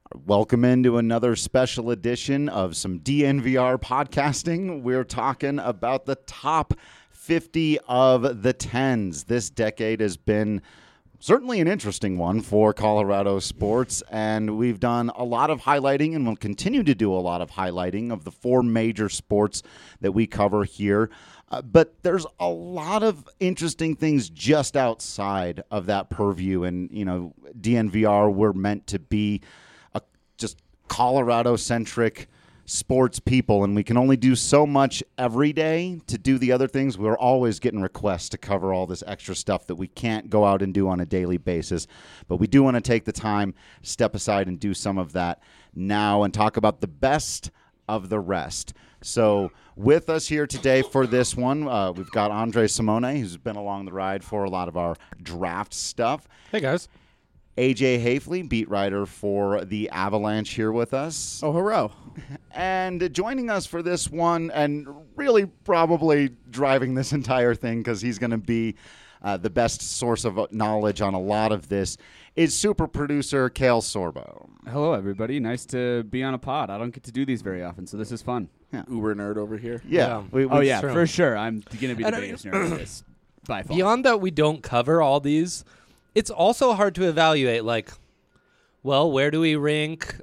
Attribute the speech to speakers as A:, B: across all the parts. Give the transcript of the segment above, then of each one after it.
A: Welcome into another special edition of some DNVR podcasting. We're talking about the top 50 of the 10s. This decade has been certainly an interesting one for Colorado sports, and we've done a lot of highlighting and will continue to do a lot of highlighting of the four major sports that we cover here. But there's a lot of interesting things just outside of that purview, and, DNVR, we're meant to be just Colorado-centric sports people, and we can only do so much every day to do the other things. We're always getting requests to cover all this extra stuff that we can't go out and do on a daily basis, but we do want to take the time, step aside, and do some of that now and talk about the best of the rest. So with us here today for this one, we've got Andre Simone, who's been along the ride for a lot of our draft stuff.
B: Hey, guys.
A: AJ Hafley, beat writer for the Avalanche, here with us.
B: Oh, hurrah.
A: And joining us for this one, and really probably driving this entire thing because he's going to be the best source of knowledge on a lot of this, is super producer Kale Sorbo.
C: Hello, everybody. Nice to be on a pod. I don't get to do these very often, so this is fun.
A: Yeah.
D: Uber nerd over here.
A: Yeah.
C: For sure. I'm going to be the biggest nerd of this by far.
B: Beyond that, we don't cover all these. It's also hard to evaluate, where do we rank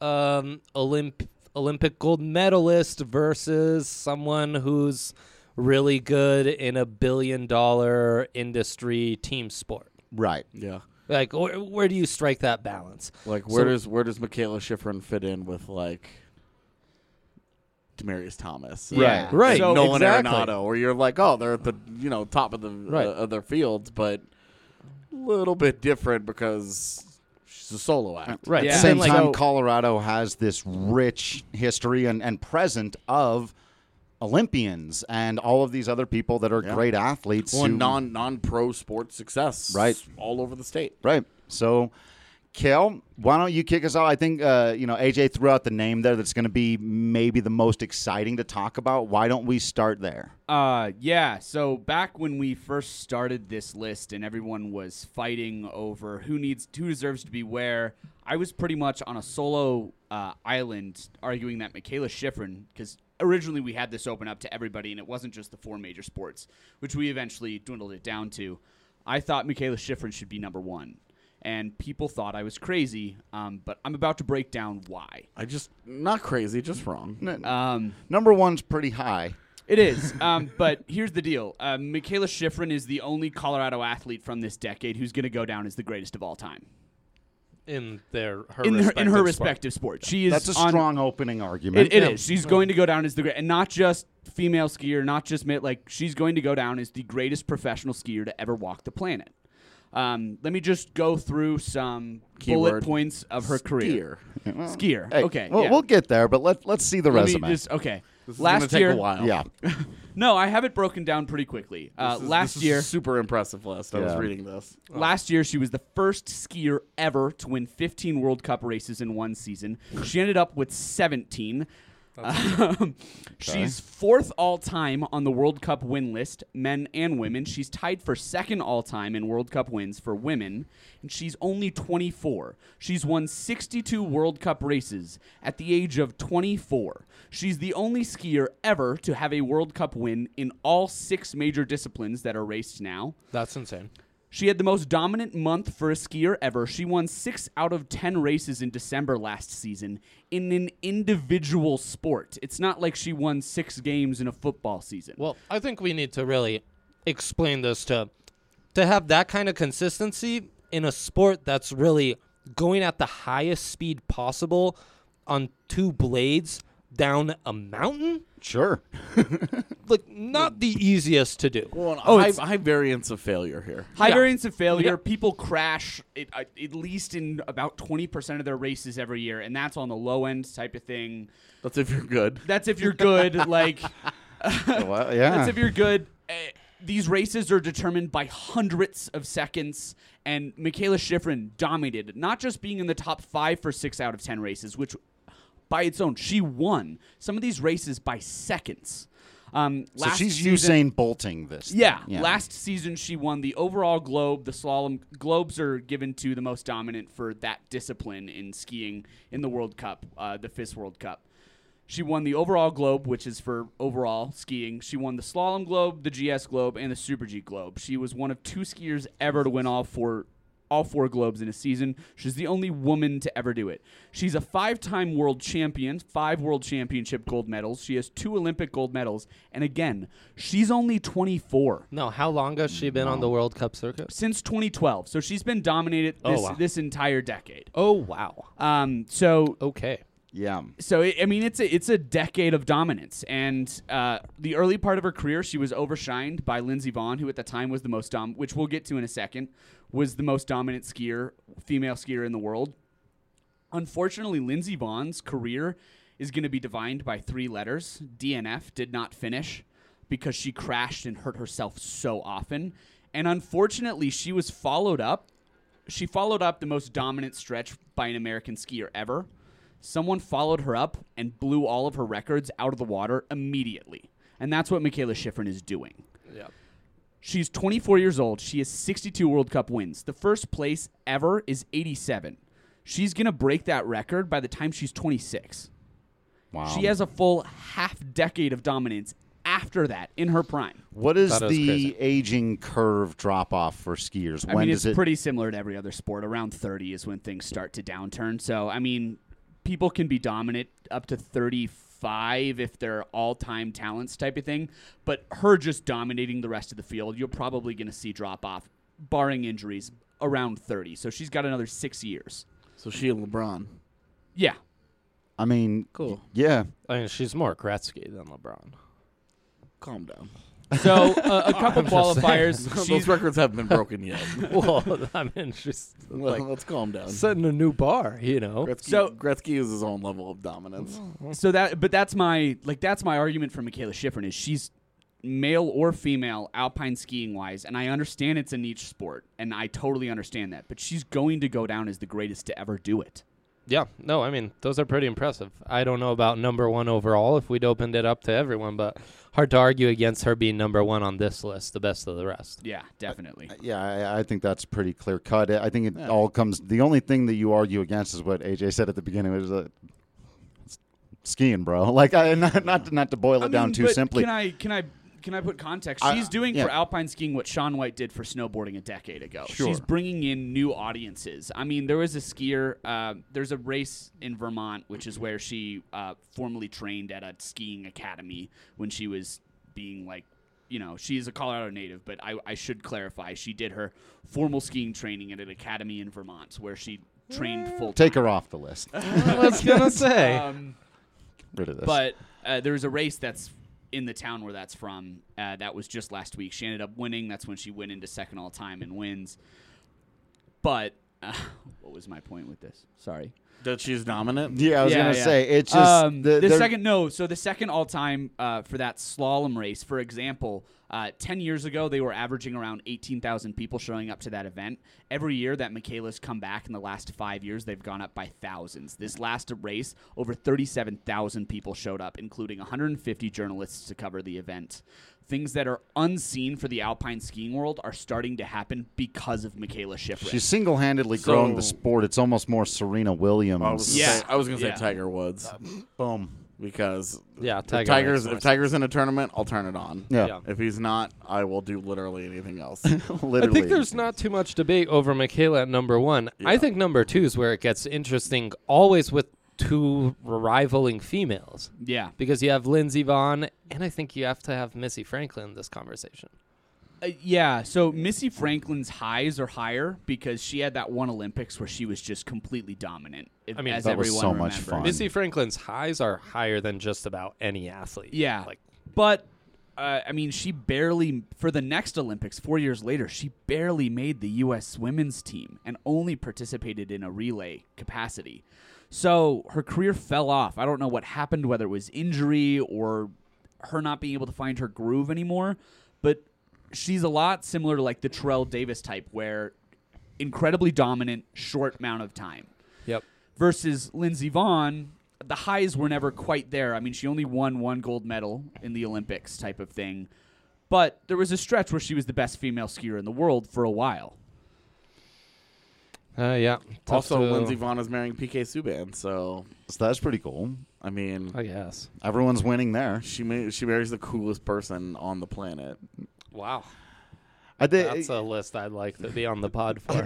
B: Olympic gold medalist versus someone who's really good in a billion-dollar industry team sport?
A: Right.
D: Yeah.
B: Where do you strike that balance?
D: Where does Michaela Schifrin fit in with Demaryius Thomas?
A: Yeah.
B: Right.
D: So Nolan
B: exactly.
D: Arenado, where you're they're at the top of the of their fields, but a little bit different because she's a solo act.
B: Right.
A: At
C: Yeah.
A: the same
C: And,
A: time, Colorado has this rich history and present of Olympians and all of these other people that are great athletes.
D: Well,
A: who,
D: non-pro sports success,
A: Right.
D: all over the state.
A: Right. So, Kel, why don't you kick us off? I think, AJ threw out the name there that's going to be maybe the most exciting to talk about. Why don't we start there?
C: So back when we first started this list and everyone was fighting over who deserves to be where, I was pretty much on a solo island arguing that Michaela Schifrin, because originally we had this open up to everybody and it wasn't just the four major sports, which we eventually dwindled it down to. I thought Michaela Schifrin should be number one. And people thought I was crazy, but I'm about to break down why.
D: Not crazy, just wrong.
A: Number one's pretty high.
C: It is, but here's the deal. Michaela Schifrin is the only Colorado athlete from this decade who's going to go down as the greatest of all time.
B: In her
C: respective sport. She is
A: That's a strong opening argument.
C: It is. She's going to go down as the great, and not just female skier, not just she's going to go down as the greatest professional skier to ever walk the planet. Let me just go through some bullet points of her career. Skier.
A: Hey,
C: okay.
A: We'll get there, but let's see the resume.
C: This
D: This
C: last
D: is gonna
C: year,
D: take a while.
A: Yeah.
C: No, I have it broken down pretty quickly.
D: This is a super impressive list. I was reading this.
C: Last year, she was the first skier ever to win 15 World Cup races in one season. She ended up with 17. She's fourth all-time on the World Cup win list, men and women. She's tied for second all-time in World Cup wins for women, and she's only 24. She's won 62 World Cup races at the age of 24. She's the only skier ever to have a World Cup win in all 6 major disciplines that are raced now.
B: That's insane.
C: She had the most dominant month for a skier ever. She won 6 out of 10 races in December last season in an individual sport. It's not like she won 6 games in a football season.
B: Well, I think we need to really explain this to have that kind of consistency in a sport that's really going at the highest speed possible on 2 blades down a mountain.
A: Sure.
B: Not the easiest to do.
D: Well, high variance of failure here.
C: High variance of failure. People crash at least in about 20% of their races every year, and that's on the low end type of thing.
D: That's if you're good.
C: That's if you're good.
A: Well, yeah.
C: That's if you're good. These races are determined by hundredths of seconds, and Michaela Schifrin dominated, not just being in the top 5 for 6 out of 10 races, which by its own, she won some of these races by seconds.
A: So
C: Last
A: she's
C: season,
A: Usain Bolting this.
C: Yeah,
A: thing.
C: last season she won the overall globe. The slalom globes are given to the most dominant for that discipline in skiing in the World Cup, the FIS World Cup. She won the overall globe, which is for overall skiing. She won the slalom globe, the GS globe, and the Super G globe. She was one of 2 skiers ever to win all four globes in a season. She's the only woman to ever do it. She's a 5-time world champion, 5 world championship gold medals. She has 2 Olympic gold medals. And again, she's only 24.
B: No, how long has she been on the World Cup circuit?
C: Since 2012. So she's been dominated this entire decade.
B: Oh, wow. Okay.
A: Yeah.
C: So it's a decade of dominance, and the early part of her career, she was overshined by Lindsey Vonn, who at the time was the most which we'll get to in a second, was the most dominant female skier in the world. Unfortunately, Lindsey Vonn's career is going to be defined by 3 letters. DNF, did not finish, because she crashed and hurt herself so often, and unfortunately, she followed up the most dominant stretch by an American skier ever. Someone followed her up and blew all of her records out of the water immediately. And that's what Mikaela Shiffrin is doing.
B: Yeah.
C: She's 24 years old. She has 62 World Cup wins. The first place ever is 87. She's going to break that record by the time she's 26.
A: Wow.
C: She has a full half-decade of dominance after that in her prime.
A: What is
B: That is
A: the
B: crazy.
A: aging curve drop-off for skiers?
C: I mean, it's
A: does
C: pretty similar to every other sport. Around 30 is when things start to downturn. So, I mean, people can be dominant up to 35 if they're all-time talents type of thing. But her just dominating the rest of the field, you're probably going to see drop-off, barring injuries, around 30. So she's got another 6 years.
D: So she and LeBron.
C: Yeah.
A: I mean,
D: Cool.
A: yeah.
B: I mean, she's more Gretzky than LeBron.
D: Calm down.
C: So a couple
B: I'm just
C: qualifiers.
D: Those
C: She's,
D: records haven't been broken yet.
B: Well, I mean, she's
D: Well,
B: like
D: let's calm down.
B: setting a new bar, you know?
D: Gretzky is his own level of dominance.
C: that's my argument for Mikaela Shiffrin is she's male or female alpine skiing wise, and I understand it's a niche sport, and I totally understand that, but she's going to go down as the greatest to ever do it.
B: Yeah, no, I mean, those are pretty impressive. I don't know about number 1 overall if we'd opened it up to everyone, but hard to argue against her being number 1 on this list, the best of the rest.
C: Yeah, definitely.
A: Yeah, I think that's pretty clear cut. I think it all comes. The only thing that you argue against is what AJ said at the beginning. It was skiing, bro. Like, not to boil it down too
C: but
A: simply.
C: Can I put context?
A: I-
C: She's doing
A: yeah.
C: for alpine skiing what Shaun White did for snowboarding a decade ago.
A: Sure.
C: She's bringing in new audiences. I mean, there was a skier. There's a race in Vermont, which is where she formerly trained at a skiing academy when she was being like, she's a Colorado native, but I should clarify, she did her formal skiing training at an academy in Vermont where she trained full time.
A: Take her off the list.
B: I was going to say.
A: Rid of this.
C: But there's a race that's in the town where that's from. That was just last week. She ended up winning. That's when she went into second all time and wins. But what was my point with this? Sorry.
D: That she's dominant?
A: yeah, I was
C: Yeah,
A: gonna
C: yeah.
A: say it's just
C: the second all time for that slalom race, for example, 10 years ago they were averaging around 18,000 people showing up to that event. Every year that Mikaela's come back in the last 5 years, they've gone up by thousands. This last race, over 37,000 people showed up, including 150 journalists to cover the event. Things that are unseen for the alpine skiing world are starting to happen because of Mikaela Shiffrin.
A: She's single-handedly grown the sport. It's almost more Serena Williams.
D: I was going to say
C: Yeah.
D: Tiger Woods.
A: Boom.
D: Because
B: Yeah,
D: if
B: Tiger's
D: Tiger's in a tournament, I'll turn it on.
A: Yeah.
B: Yeah.
D: If he's not, I will do literally anything else.
A: Literally.
B: I think there's not too much debate over Mikaela at number 1. I think number 2 is where it gets interesting, always with 2 rivaling females.
C: Yeah.
B: Because you have Lindsey Vonn, and I think you have to have Missy Franklin in this conversation.
C: Yeah, so Missy Franklin's highs are higher because she had that one Olympics where she was just completely dominant.
B: I mean,
C: as
A: that was
C: everyone
A: so much
C: remembers.
A: fun.
B: Missy Franklin's highs are higher than just about any athlete.
C: Yeah,
B: Like,
C: but I mean, she barely, for the next Olympics 4 years later, she barely made the U.S. women's team and only participated in a relay capacity. So her career fell off. I don't know what happened, whether it was injury or her not being able to find her groove anymore, but she's a lot similar to like the Terrell Davis type, where incredibly dominant, short amount of time.
B: yep.
C: Versus Lindsey Vonn, the highs were never quite there. I mean, she only won 1 gold medal in the Olympics type of thing. But there was a stretch where she was the best female skier in the world for a while.
B: Yeah.
D: Also, Lindsey Vonn is marrying PK Subban, so
A: that's pretty cool.
D: I mean,
B: I guess.
A: Everyone's winning there.
D: She marries the coolest person on the planet.
B: Wow.
A: That's
B: a list I'd like to be on the pod for.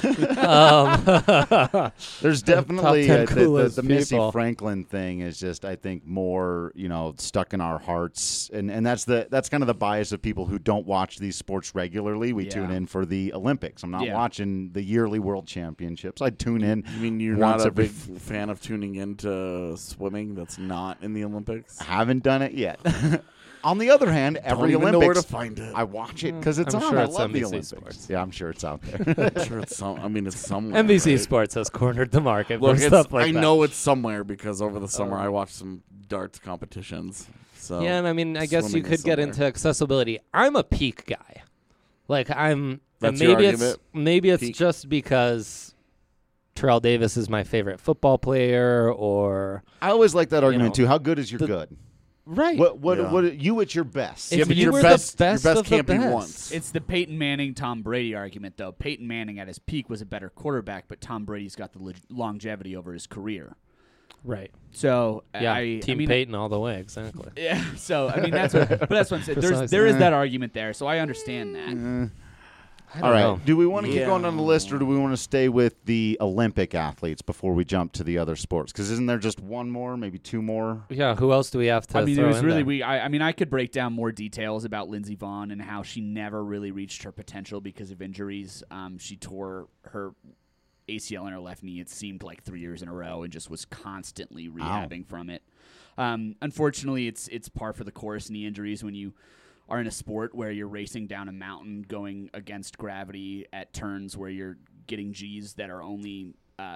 A: There's definitely
B: Top 10 coolest
A: the Missy
B: people.
A: Franklin thing is just, I think, more stuck in our hearts, and that's kind of the bias of people who don't watch these sports regularly. We tune in for the Olympics. I'm not watching the yearly World Championships. I tune in.
D: You mean you're not a big fan of tuning into swimming that's not in the Olympics?
A: I haven't done it yet. On the other hand, every
D: Don't even
A: Olympics,
D: know where to find it.
A: I watch it because it's
B: I'm
A: on.
B: sure
A: I
B: it's
A: love the
B: NBC
A: Olympics.
B: Sports.
A: Yeah, I'm sure it's out there.
D: I'm sure it's it's somewhere.
B: NBC
D: right?
B: Sports has cornered the market
D: Look,
B: for stuff like
D: I
B: that.
D: know it's somewhere because over the summer I watched some darts competitions. So
B: Yeah, and I mean, I guess you
D: swimming
B: could
D: is
B: get
D: somewhere.
B: into accessibility. I'm a peak guy. Like and
D: That's your
B: maybe it's
D: Peak.
B: just because Terrell Davis is my favorite football player, or
A: I always like that argument
B: know,
A: too. How good is your good?
B: right.
A: What you at your best?
B: If
D: Yeah, but
B: you
D: your
B: were
D: best,
B: the best
D: your best
B: of the
D: can't be
B: best.
D: once.
C: It's the Peyton Manning, Tom Brady argument, though. Peyton Manning at his peak was a better quarterback, but Tom Brady's got the longevity over his career.
B: Right.
C: So
B: Yeah.
C: I
B: Team
C: mean,
B: Peyton all the way. Exactly.
C: Yeah. So I mean that's what I'm saying. There is that argument there. So I understand that.
B: I
A: All
B: don't
A: right.
B: know.
A: Do we want to keep
D: Yeah.
A: going down the list, or do we want to stay with the Olympic athletes before we jump to the other sports? Because isn't there just one more, maybe two more?
B: Yeah. Who else do we have to?
C: I mean, it
B: throw
C: was
B: in
C: really
B: there?
C: I mean, I could break down more details about Lindsey Vonn and how she never really reached her potential because of injuries. She tore her ACL in her left knee. It seemed like 3 years in a row, and just was constantly rehabbing from it. Unfortunately, it's par for the course. Knee injuries when you are in a sport where you're racing down a mountain, going against gravity at turns where you're getting G's that are only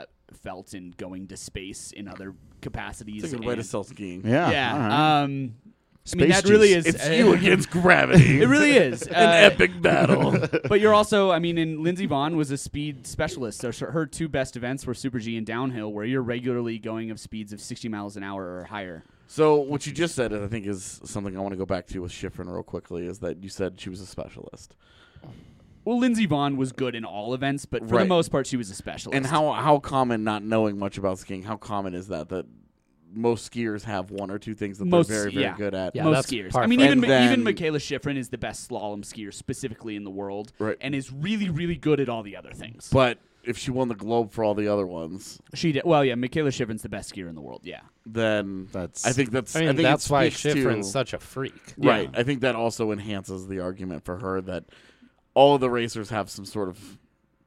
C: felt in going to space in other capacities.
D: It's a good way to
C: and-
D: sell skiing.
A: Yeah.
C: yeah.
A: all right.
C: I mean,
A: Space
C: that really
A: G's.
C: is.
D: It's you against gravity.
C: It really is.
D: An epic battle.
C: But you're also, I mean, and Lindsey Vonn was a speed specialist. So her two best events were Super G and downhill, where you're regularly going of speeds of 60 miles an hour or higher.
D: So what you just said, I think, is something I want to go back to with Schifrin real quickly, is that you said she was a specialist.
C: Well, Lindsey Vonn was good in all events, but for the
D: Right.
C: most part, she was a specialist.
D: And how common, not knowing much about skiing, how common is that most skiers have one or two things that
C: Most-
D: they're very, very
C: yeah.
D: good at?
B: Yeah,
C: most
B: that's
C: skiers.
B: par
C: I mean,
B: for-
C: even
D: And then-
C: even Michaela Schifrin is the best slalom skier specifically in the world,
D: Right.
C: and is really, really good at all the other things.
D: But if she won the globe for all the other ones,
C: She did well. Yeah, Michaela Schifrin's the best skier in the world. Yeah.
D: then
A: That's
D: I think that's
B: I mean,
D: think it
B: that's why
D: speaks to-
B: Schifrin's such a freak.
D: Right.
C: Yeah.
D: I think that also enhances the argument for her that all of the racers have some sort of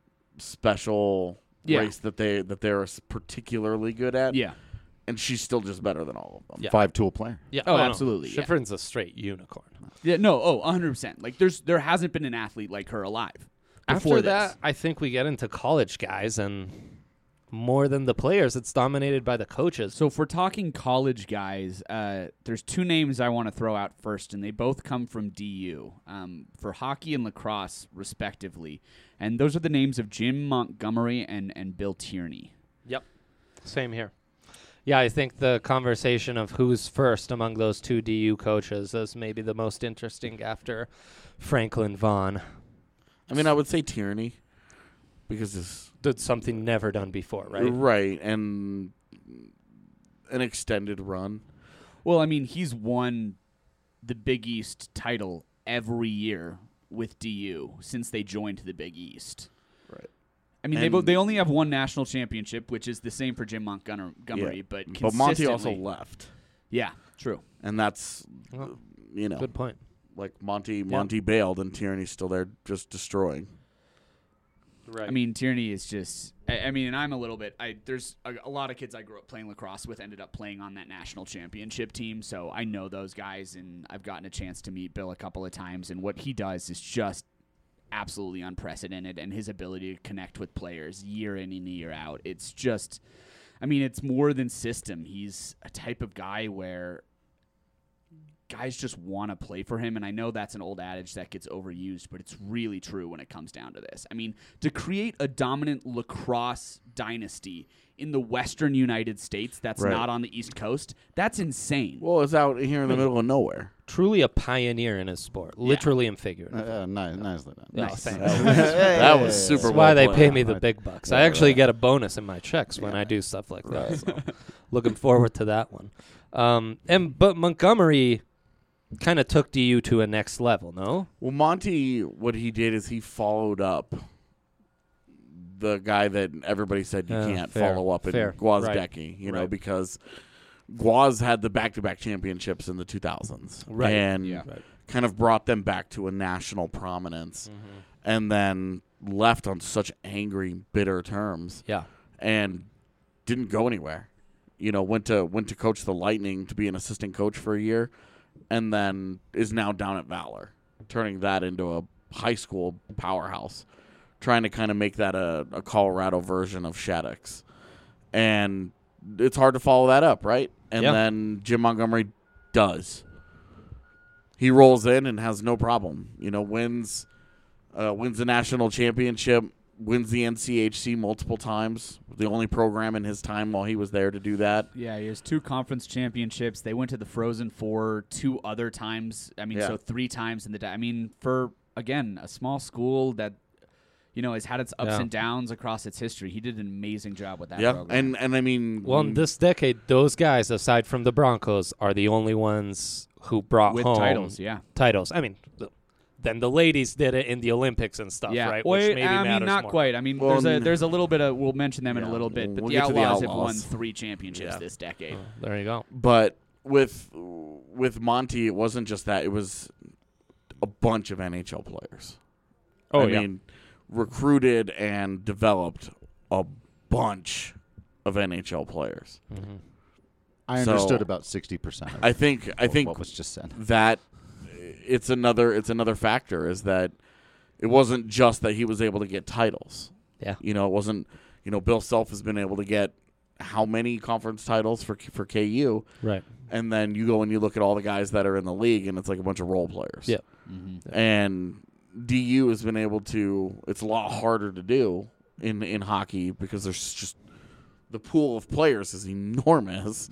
D: special
C: Yeah.
D: race that they're particularly good at.
C: Yeah.
D: And she's still just better than all of them.
B: Yeah.
A: 5-tool player.
B: Yeah.
C: Oh,
B: no.
C: absolutely, yeah.
B: Schifrin's a straight unicorn.
C: Yeah. No. Oh, 100%. Like there hasn't been an athlete like her alive. Before
B: After
C: this.
B: that, I think we get into college guys, and more than the players, it's dominated by the coaches.
C: So if we're talking college guys, there's two names I want to throw out first, and they both come from DU for hockey and lacrosse, respectively. And those are the names of Jim Montgomery and Bill Tierney.
B: Yep. Same here. Yeah, I think the conversation of who's first among those two DU coaches is maybe the most interesting after Franklin Vaughn.
D: I mean, I would say Tierney because it's
B: Did something never done before, right?
D: right and an extended run.
C: Well, I mean, he's won the Big East title every year with DU since they joined the Big East.
D: Right.
C: I mean,
D: And-
C: they only have one national championship, which is the same for Jim Montgomery,
D: Yeah.
C: but
D: But Monty also
C: consistently-
D: left.
C: Yeah, true.
D: And that's
B: Well,
D: you know,
B: Good point.
D: like Monty bailed and Tierney's still there just destroying.
B: Right.
C: I mean, Tierney is just. I mean, and I'm a little bit. There's a lot of kids I grew up playing lacrosse with ended up playing on that national championship team, so I know those guys, and I've gotten a chance to meet Bill a couple of times, and what he does is just absolutely unprecedented, and his ability to connect with players year in and year out. It's just. I mean, it's more than system. He's a type of guy where guys just want to play for him, and I know that's an old adage that gets overused, but it's really true when it comes down to this. I mean, to create a dominant lacrosse dynasty in the western United States that's
D: Right.
C: not on the East Coast. That's insane.
D: Well, it's out here in the middle of nowhere.
B: Truly a pioneer in his sport, literally and figuratively.
A: Nicely done.
B: Yeah,
C: Nice.
B: thanks.
D: That was super.
B: That's
D: well
B: why they
D: played.
B: pay me the big bucks. I actually get a bonus in my checks when I do stuff like that. So looking forward to that one. But Montgomery kind of took DU to a next level, no?
D: Well, Monty, what he did is he followed up the guy that everybody said you can't
B: fair,
D: follow up in
B: fair.
D: Gwozdecki, you know,
B: Right.
D: because Gwoz had the back-to-back championships in the 2000s.
B: Right.
D: And
C: Yeah.
D: kind of brought them back to a national prominence and then left on such angry, bitter terms
B: Yeah.
D: and didn't go anywhere. You know, went to coach the Lightning to be an assistant coach for a year and then is now down at Valor, turning that into a high school powerhouse, trying to kind of make that a Colorado version of Shattuck's. And it's hard to follow that up, right? And
B: Yeah.
D: then Jim Montgomery does. He rolls in and has no problem. You know, wins the national championship, wins the NCHC multiple times. The only program in his time while he was there to do that.
C: Yeah, he has 2 conference championships. They went to the Frozen Four 2 other times. I mean,
D: Yeah.
C: so 3 times in the I mean, for, again, a small school that, you know, has had its ups
B: Yeah.
C: and downs across its history. He did an amazing job with that
D: Yeah,
C: program.
D: and I mean,
B: Well, in this decade, those guys, aside from the Broncos, are the only ones who brought
C: with
B: home
C: titles, yeah.
B: titles. I mean, then the ladies did it in the Olympics and stuff,
C: Yeah,
B: right?
C: well,
B: Which maybe
C: I mean,
B: matters
C: not
B: more.
C: quite. I mean,
D: Well,
C: there's a little bit of. We'll mention them in a
D: Yeah,
C: little bit, but
D: we'll
C: the
D: get to the
C: Outlaws have
D: Outlaws.
C: won 3 championships
D: Yeah.
C: this decade.
B: There you go.
D: but with Monty, it wasn't just that. It was a bunch of NHL players.
B: Oh,
D: I
B: yeah.
D: mean, recruited and developed a bunch of NHL players.
A: I
D: So-
A: understood about 60%.
D: I think
A: what was just said.
D: that it's another factor is that it wasn't just that he was able to get titles.
B: Yeah.
D: You know, it wasn't. You know, Bill Self has been able to get how many conference titles for KU,
B: Right.
D: and then you go and you look at all the guys that are in the league, and it's like a bunch of role players.
B: Yeah.
D: And DU has been able to. It's a lot harder to do in hockey because there's just the pool of players is enormous,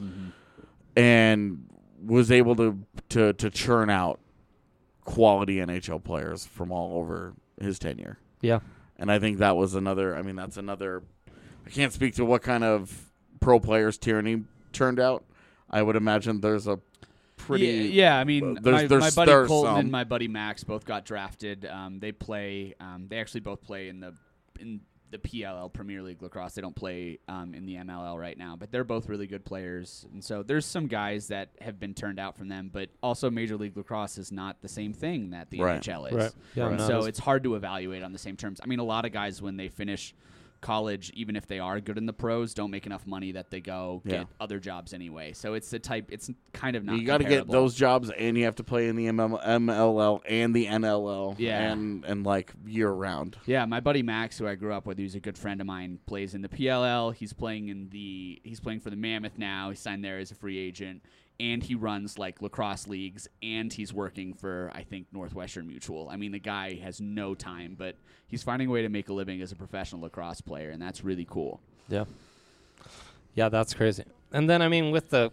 D: and was able to churn out quality NHL players from all over his tenure.
B: Yeah.
D: And I think that was another. I mean, that's another. I can't speak to what kind of pro players Tierney turned out. I would imagine there's a pretty.
C: Yeah, I mean,
D: there's
C: my buddy
D: there's
C: Colton
D: some.
C: and my buddy Max both got drafted. They play. They actually both play in the PLL Premier League lacrosse. They don't play in the MLL right now, but they're both really good players. And so there's some guys that have been turned out from them. But also, Major League Lacrosse is not the same thing that the
D: Right.
C: NHL is.
B: Right. Yeah,
C: And
B: no,
C: so
B: it's-
C: it's hard to evaluate on the same terms. I mean, a lot of guys when they finish college, even if they are good in the pros, don't make enough money that they go
D: Yeah.
C: get other jobs anyway. So it's the type. It's kind of not.
D: You got to get
C: comparable.
D: those jobs, and you have to play in the MLL and the NLL,
C: Yeah.
D: and like year round.
C: Yeah, my buddy Max, who I grew up with, who's a good friend of mine, plays in the PLL. He's playing for the Mammoth now. He signed there as a free agent, and he runs like lacrosse leagues, and he's working for I think Northwestern Mutual. I mean, the guy has no time, but he's finding a way to make a living as a professional lacrosse player, and that's really cool.
B: Yeah. Yeah, that's crazy. And then, I mean,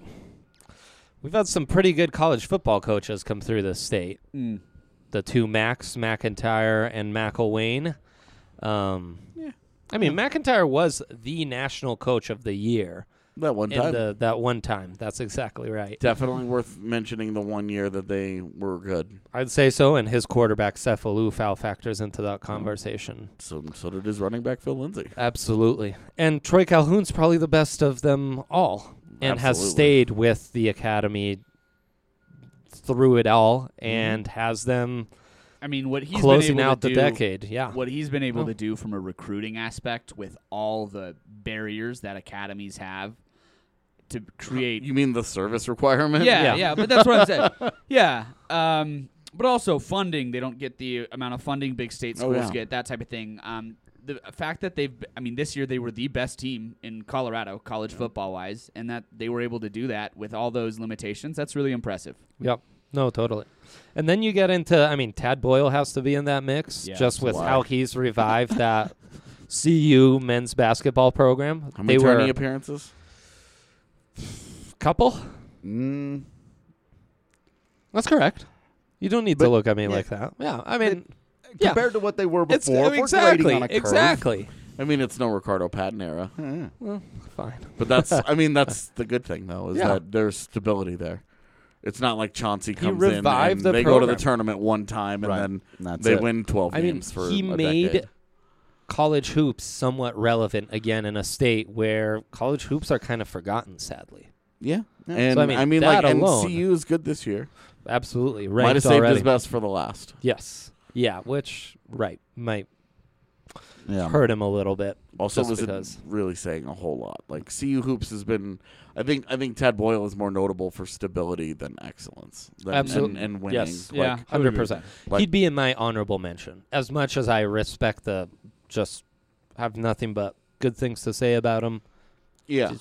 B: we've had some pretty good college football coaches come through this state. The 2 Max, McIntyre and McElwain. I mean, McIntyre was the national coach of the year
D: That one time,
B: that one time. That's exactly right.
D: definitely worth mentioning. The 1 year that they were good.
B: I'd say so, and his quarterback, Seth Alufal, factors into that conversation.
D: So did his running back Phil Lindsay.
B: Absolutely. And Troy Calhoun's probably the best of them all and has
D: Absolutely.
B: stayed with the academy through it all and has them
C: I mean, what he's
B: closing
C: been able
B: out
C: to
B: the
C: do,
B: decade. Yeah.
C: What he's been able
B: Oh.
C: to do from a recruiting aspect with all the barriers that academies have to create.
D: You mean the service requirement?
C: Yeah, but that's what I'm saying. Yeah. But also funding. They don't get the amount of funding big state schools
D: yeah.
C: get, that type of thing. The fact that this year they were the best team in Colorado, college football-wise, and that they were able to do that with all those limitations, that's really impressive.
B: Yep. No, totally. And then you get into, I mean, Tad Boyle has to be in that mix
C: Yeah,
B: just with
D: why?
B: how he's revived that CU men's basketball program.
D: How many
B: They were
D: tourney appearances?
B: couple.
A: Mm,
B: That's correct. You don't need to
A: But-
B: look at me
A: yeah.
B: like that. Yeah, I mean, yeah.
A: compared to what they were
B: It's
A: before, if we're grading on a curve.
B: exactly.
D: I mean, it's no Ricardo Patton era,
A: Yeah.
B: Well, fine.
D: but that's I mean that's the good thing though is
B: Yeah.
D: that there's stability there. It's not like Chauncey comes in
B: revived
D: and
B: the
D: they go to the
B: program.
D: tournament one time and
A: Right.
D: then
A: That's
D: they
A: it.
D: win 12
B: I mean,
D: games for
B: he
D: a
B: made
D: decade.
B: college hoops somewhat relevant again in a state where college hoops are kind of forgotten, sadly.
D: Yeah,
A: Yeah.
D: and
B: So, I mean, that
D: and
B: alone-
D: CU is good this year.
B: Absolutely.
D: Might have
B: Ranked
D: saved
B: already.
D: his best for the last.
B: Yes. Yeah, which, might
A: Yeah.
B: hurt him a little bit.
D: Also,
B: just
D: wasn't
B: because.
D: really saying a whole lot. Like CU hoops has been, I think Tad Boyle is more notable for stability than excellence.
B: Absolutely.
D: and winning.
B: Yes.
D: Like,
C: Yeah.
B: 100%.
D: Like-
B: He'd be in my honorable mention. As much as I respect just have nothing but good things to say about him.
D: yeah.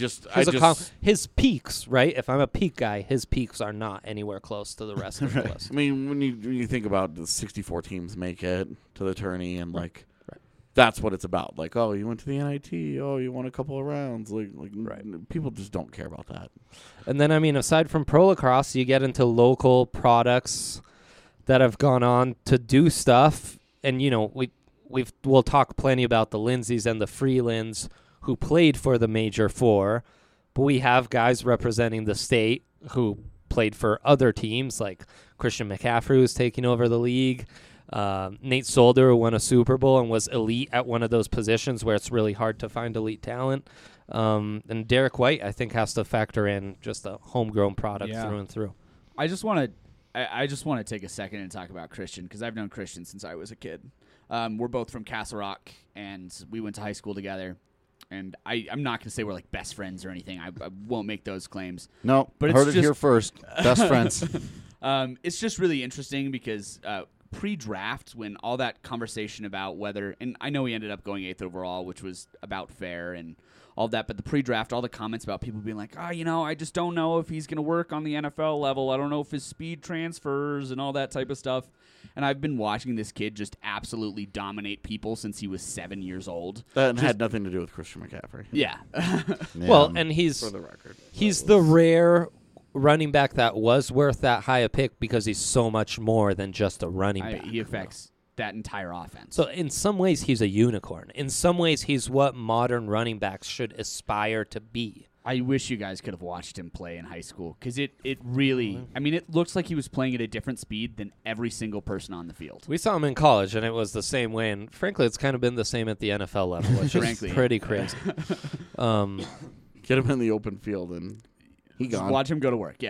B: His peaks, right? If I'm a peak guy, his peaks are not anywhere close to the rest of the list.
D: I mean, when you think about the 64 teams make it to the tourney, and
B: Right.
D: that's what it's about. Like, oh, you went to the NIT. Oh, you won a couple of rounds. Like people just don't care about that.
B: And then, I mean, aside from pro lacrosse, you get into local products that have gone on to do stuff. And, we'll talk plenty about the Lindsays and the Freelands who played for the Major Four. But we have guys representing the state who played for other teams, like Christian McCaffrey, who's taking over the league. Nate Solder, who won a Super Bowl and was elite at one of those positions where it's really hard to find elite talent. And Derek White, I think, has to factor in just a homegrown product through and through.
C: I just want to take a second and talk about Christian because I've known Christian since I was a kid. We're both from Castle Rock, and we went to high school together. And I'm not going to say we're like best friends or anything. I won't make those claims.
A: No,
C: But
A: heard
C: it's
A: it here
C: just-
A: first. Best friends.
C: It's just really interesting because pre-draft, when all that conversation about whether, and I know he ended up going 8th overall, which was about fair and all that, but the pre-draft, all the comments about people being like, I just don't know if he's going to work on the NFL level. I don't know if his speed transfers and all that type of stuff. And I've been watching this kid just absolutely dominate people since he was 7 years old.
D: That had nothing to do with Christian McCaffrey.
C: Yeah.
A: Yeah.
B: Well, and he's
D: For the record.
B: he's the rare running back that was worth that high a pick because he's so much more than just a running back.
C: He affects that entire offense.
B: So in some ways, he's a unicorn. In some ways, he's what modern running backs should aspire to be.
C: I wish you guys could have watched him play in high school because it really, I mean, it looks like he was playing at a different speed than every single person on the field.
B: We saw him in college, and it was the same way. And frankly, it's kind of been the same at the NFL level, which is
C: Frankly.
B: pretty crazy.
D: Get him in the open field and he
C: Just
D: gone.
C: watch him go to work, yeah.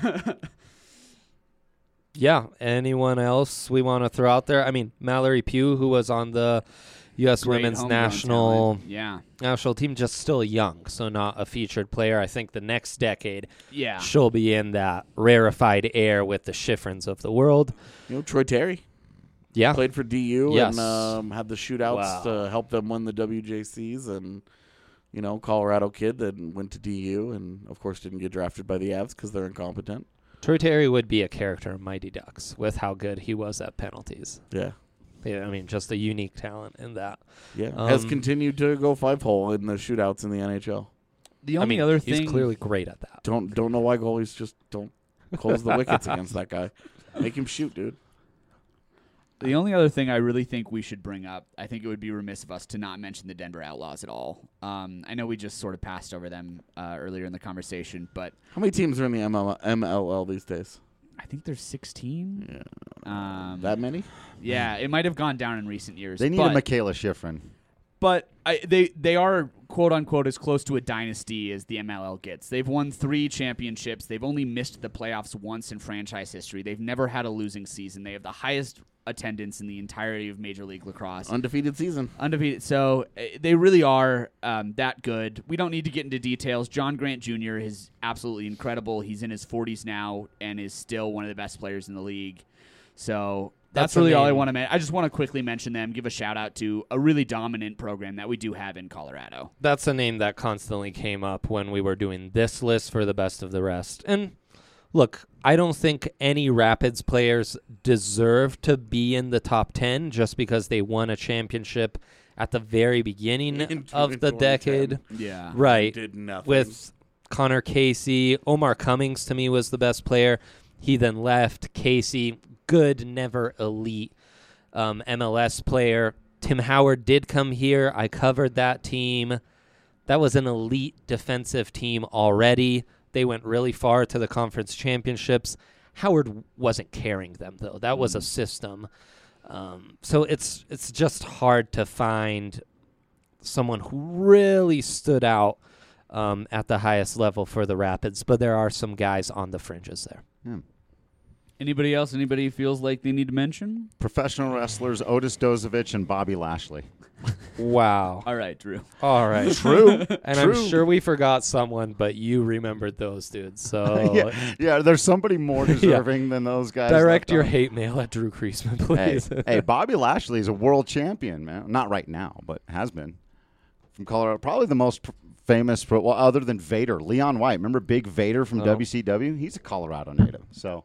B: Yeah. Anyone else we want to throw out there? I mean, Mallory Pugh, who was on the U.S.
C: Great
B: women's
C: homegrown
B: national
C: talent.
B: team, just still young, so not a featured player. I think the next decade
C: Yeah.
B: she'll be in that rarefied air with the Schifrins of the world.
D: Troy Terry
B: Yeah.
D: played for DU
B: Yes.
D: and had the shootouts
B: Wow.
D: to help them win the WJCs, and Colorado kid that went to DU and of course didn't get drafted by the Avs because they're incompetent.
B: Troy Terry would be a character in Mighty Ducks with how good he was at penalties.
D: Yeah.
B: Yeah, I mean, just a unique talent in that.
D: Yeah, has
B: Um,
D: continued to go 5-hole in the shootouts in the NHL.
C: The
B: I
C: only
B: mean,
C: other
B: he's
C: thing,
B: clearly great at that.
D: Don't know why goalies just don't close the wickets against that guy. Make him shoot, dude.
C: the only other thing I really think we should bring up, I think it would be remiss of us to not mention the Denver Outlaws at all. I know we just sort of passed over them earlier in the conversation, but
D: How many teams are in the MLL these days?
C: I think there's 16.
D: Yeah. That many?
C: Yeah, it might have gone down in recent years.
A: They need
C: but,
A: a Michaela Schifrin.
C: But they are, quote unquote, as close to a dynasty as the MLL gets. They've won 3 championships. They've only missed the playoffs once in franchise history. They've never had a losing season. They have the highest attendance in the entirety of Major League Lacrosse.
D: Undefeated season.
C: Undefeated. So they really are that good. We don't need to get into details. John Grant Jr. is absolutely incredible. He's in his 40s now and is still one of the best players in the league. So that's
B: a
C: really all I
B: name.
C: want to mention. I just want to quickly mention them, give a shout out to a really dominant program that we do have in Colorado.
B: That's a name that constantly came up when we were doing this list for the best of the rest. And look, I don't think any Rapids players deserve to be in the top 10 just because they won a championship at the very beginning
D: In
B: of the
D: 2010.
B: decade.
C: Yeah.
B: Right.
D: Did nothing.
B: With Connor Casey. Omar Cummings, to me, was the best player. He then left. Casey, good, never elite MLS player. Tim Howard did come here. I covered that team. That was an elite defensive team already. They went really far to the conference championships. Howard wasn't carrying them, though. That was a system. So it's just hard to find someone who really stood out at the highest level for the Rapids, but there are some guys on the fringes there.
A: Yeah.
C: Anybody else? Anybody feels like they need to mention?
A: Professional wrestlers Otis Dozovich and Bobby Lashley.
B: Wow.
C: All right, Drew.
B: All right.
A: True.
B: And
A: True.
B: I'm sure we forgot someone, but you remembered those dudes. So
A: Yeah, there's somebody more deserving than those guys.
B: direct
A: left
B: your
A: on.
B: hate mail at Drew Kreisman,
A: Hey,
B: please.
A: hey, Bobby Lashley is a world champion, man. Not right now, but has been. From Colorado. Probably the most famous, well, other than Vader. Leon White. Remember Big Vader from WCW? He's a Colorado native. So,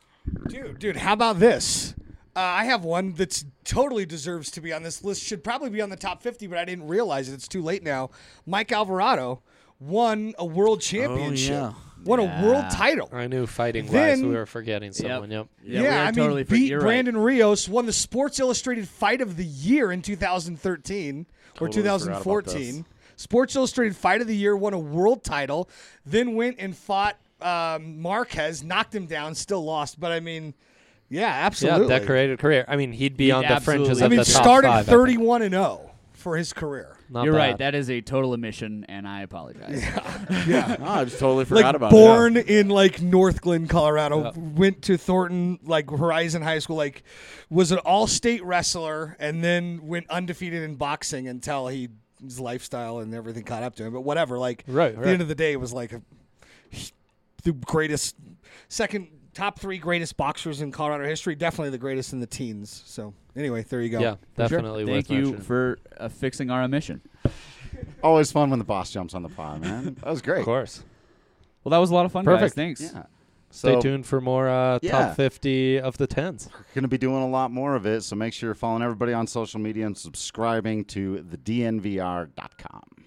E: Dude, how about this? I have one that's totally deserves to be on this list. Should probably be on the top 50, but I didn't realize it. It's too late now. Mike Alvarado won a world championship.
D: yeah.
E: Won a world title.
B: I knew fighting-wise
E: Then-
B: we were forgetting someone. Yep.
C: Yeah, we
E: I
C: are
E: mean,
C: totally
E: beat
C: you're right.
E: Brandon Rios, won the Sports Illustrated Fight of the Year in 2013 or
A: Totally forgot about
E: 2014. Sports Illustrated Fight of the Year, won a world title, then went and fought Marquez, knocked him down, still lost. But I mean, yeah, absolutely.
B: Yeah, decorated career. I mean, he'd be
C: He'd
B: on the fringes
C: absolutely-
B: of the top
E: started
B: 5.
E: 31-0 for his career.
B: Not
C: You're
B: bad.
C: right. That is a total omission, and I apologize.
A: yeah.
D: Oh, I just totally forgot
E: Like
D: about
E: born in like North Glen, Colorado,
B: Yeah.
E: went to Thornton, like Horizon High School, like was an all-state wrestler, and then went undefeated in boxing until his lifestyle and everything caught up to him. But whatever, like
B: Right,
E: at the end of the day, it was like the greatest, top 3 greatest boxers in Colorado history. Definitely the greatest in the teens. So anyway, there you go.
B: Yeah,
C: For sure.
B: definitely
C: Thank
B: worth
C: you
B: mentioning.
C: for fixing our omission.
A: Always fun when the boss jumps on the pod, man. That was great.
B: Of course.
C: Well, that was a lot of fun, guys.
B: Perfect.
C: Thanks.
A: Yeah.
B: Stay
A: So,
B: tuned for more
A: yeah.
B: top 50 of the 10s.
A: We're going to be doing a lot more of it, so make sure you're following everybody on social media and subscribing to thednvr.com.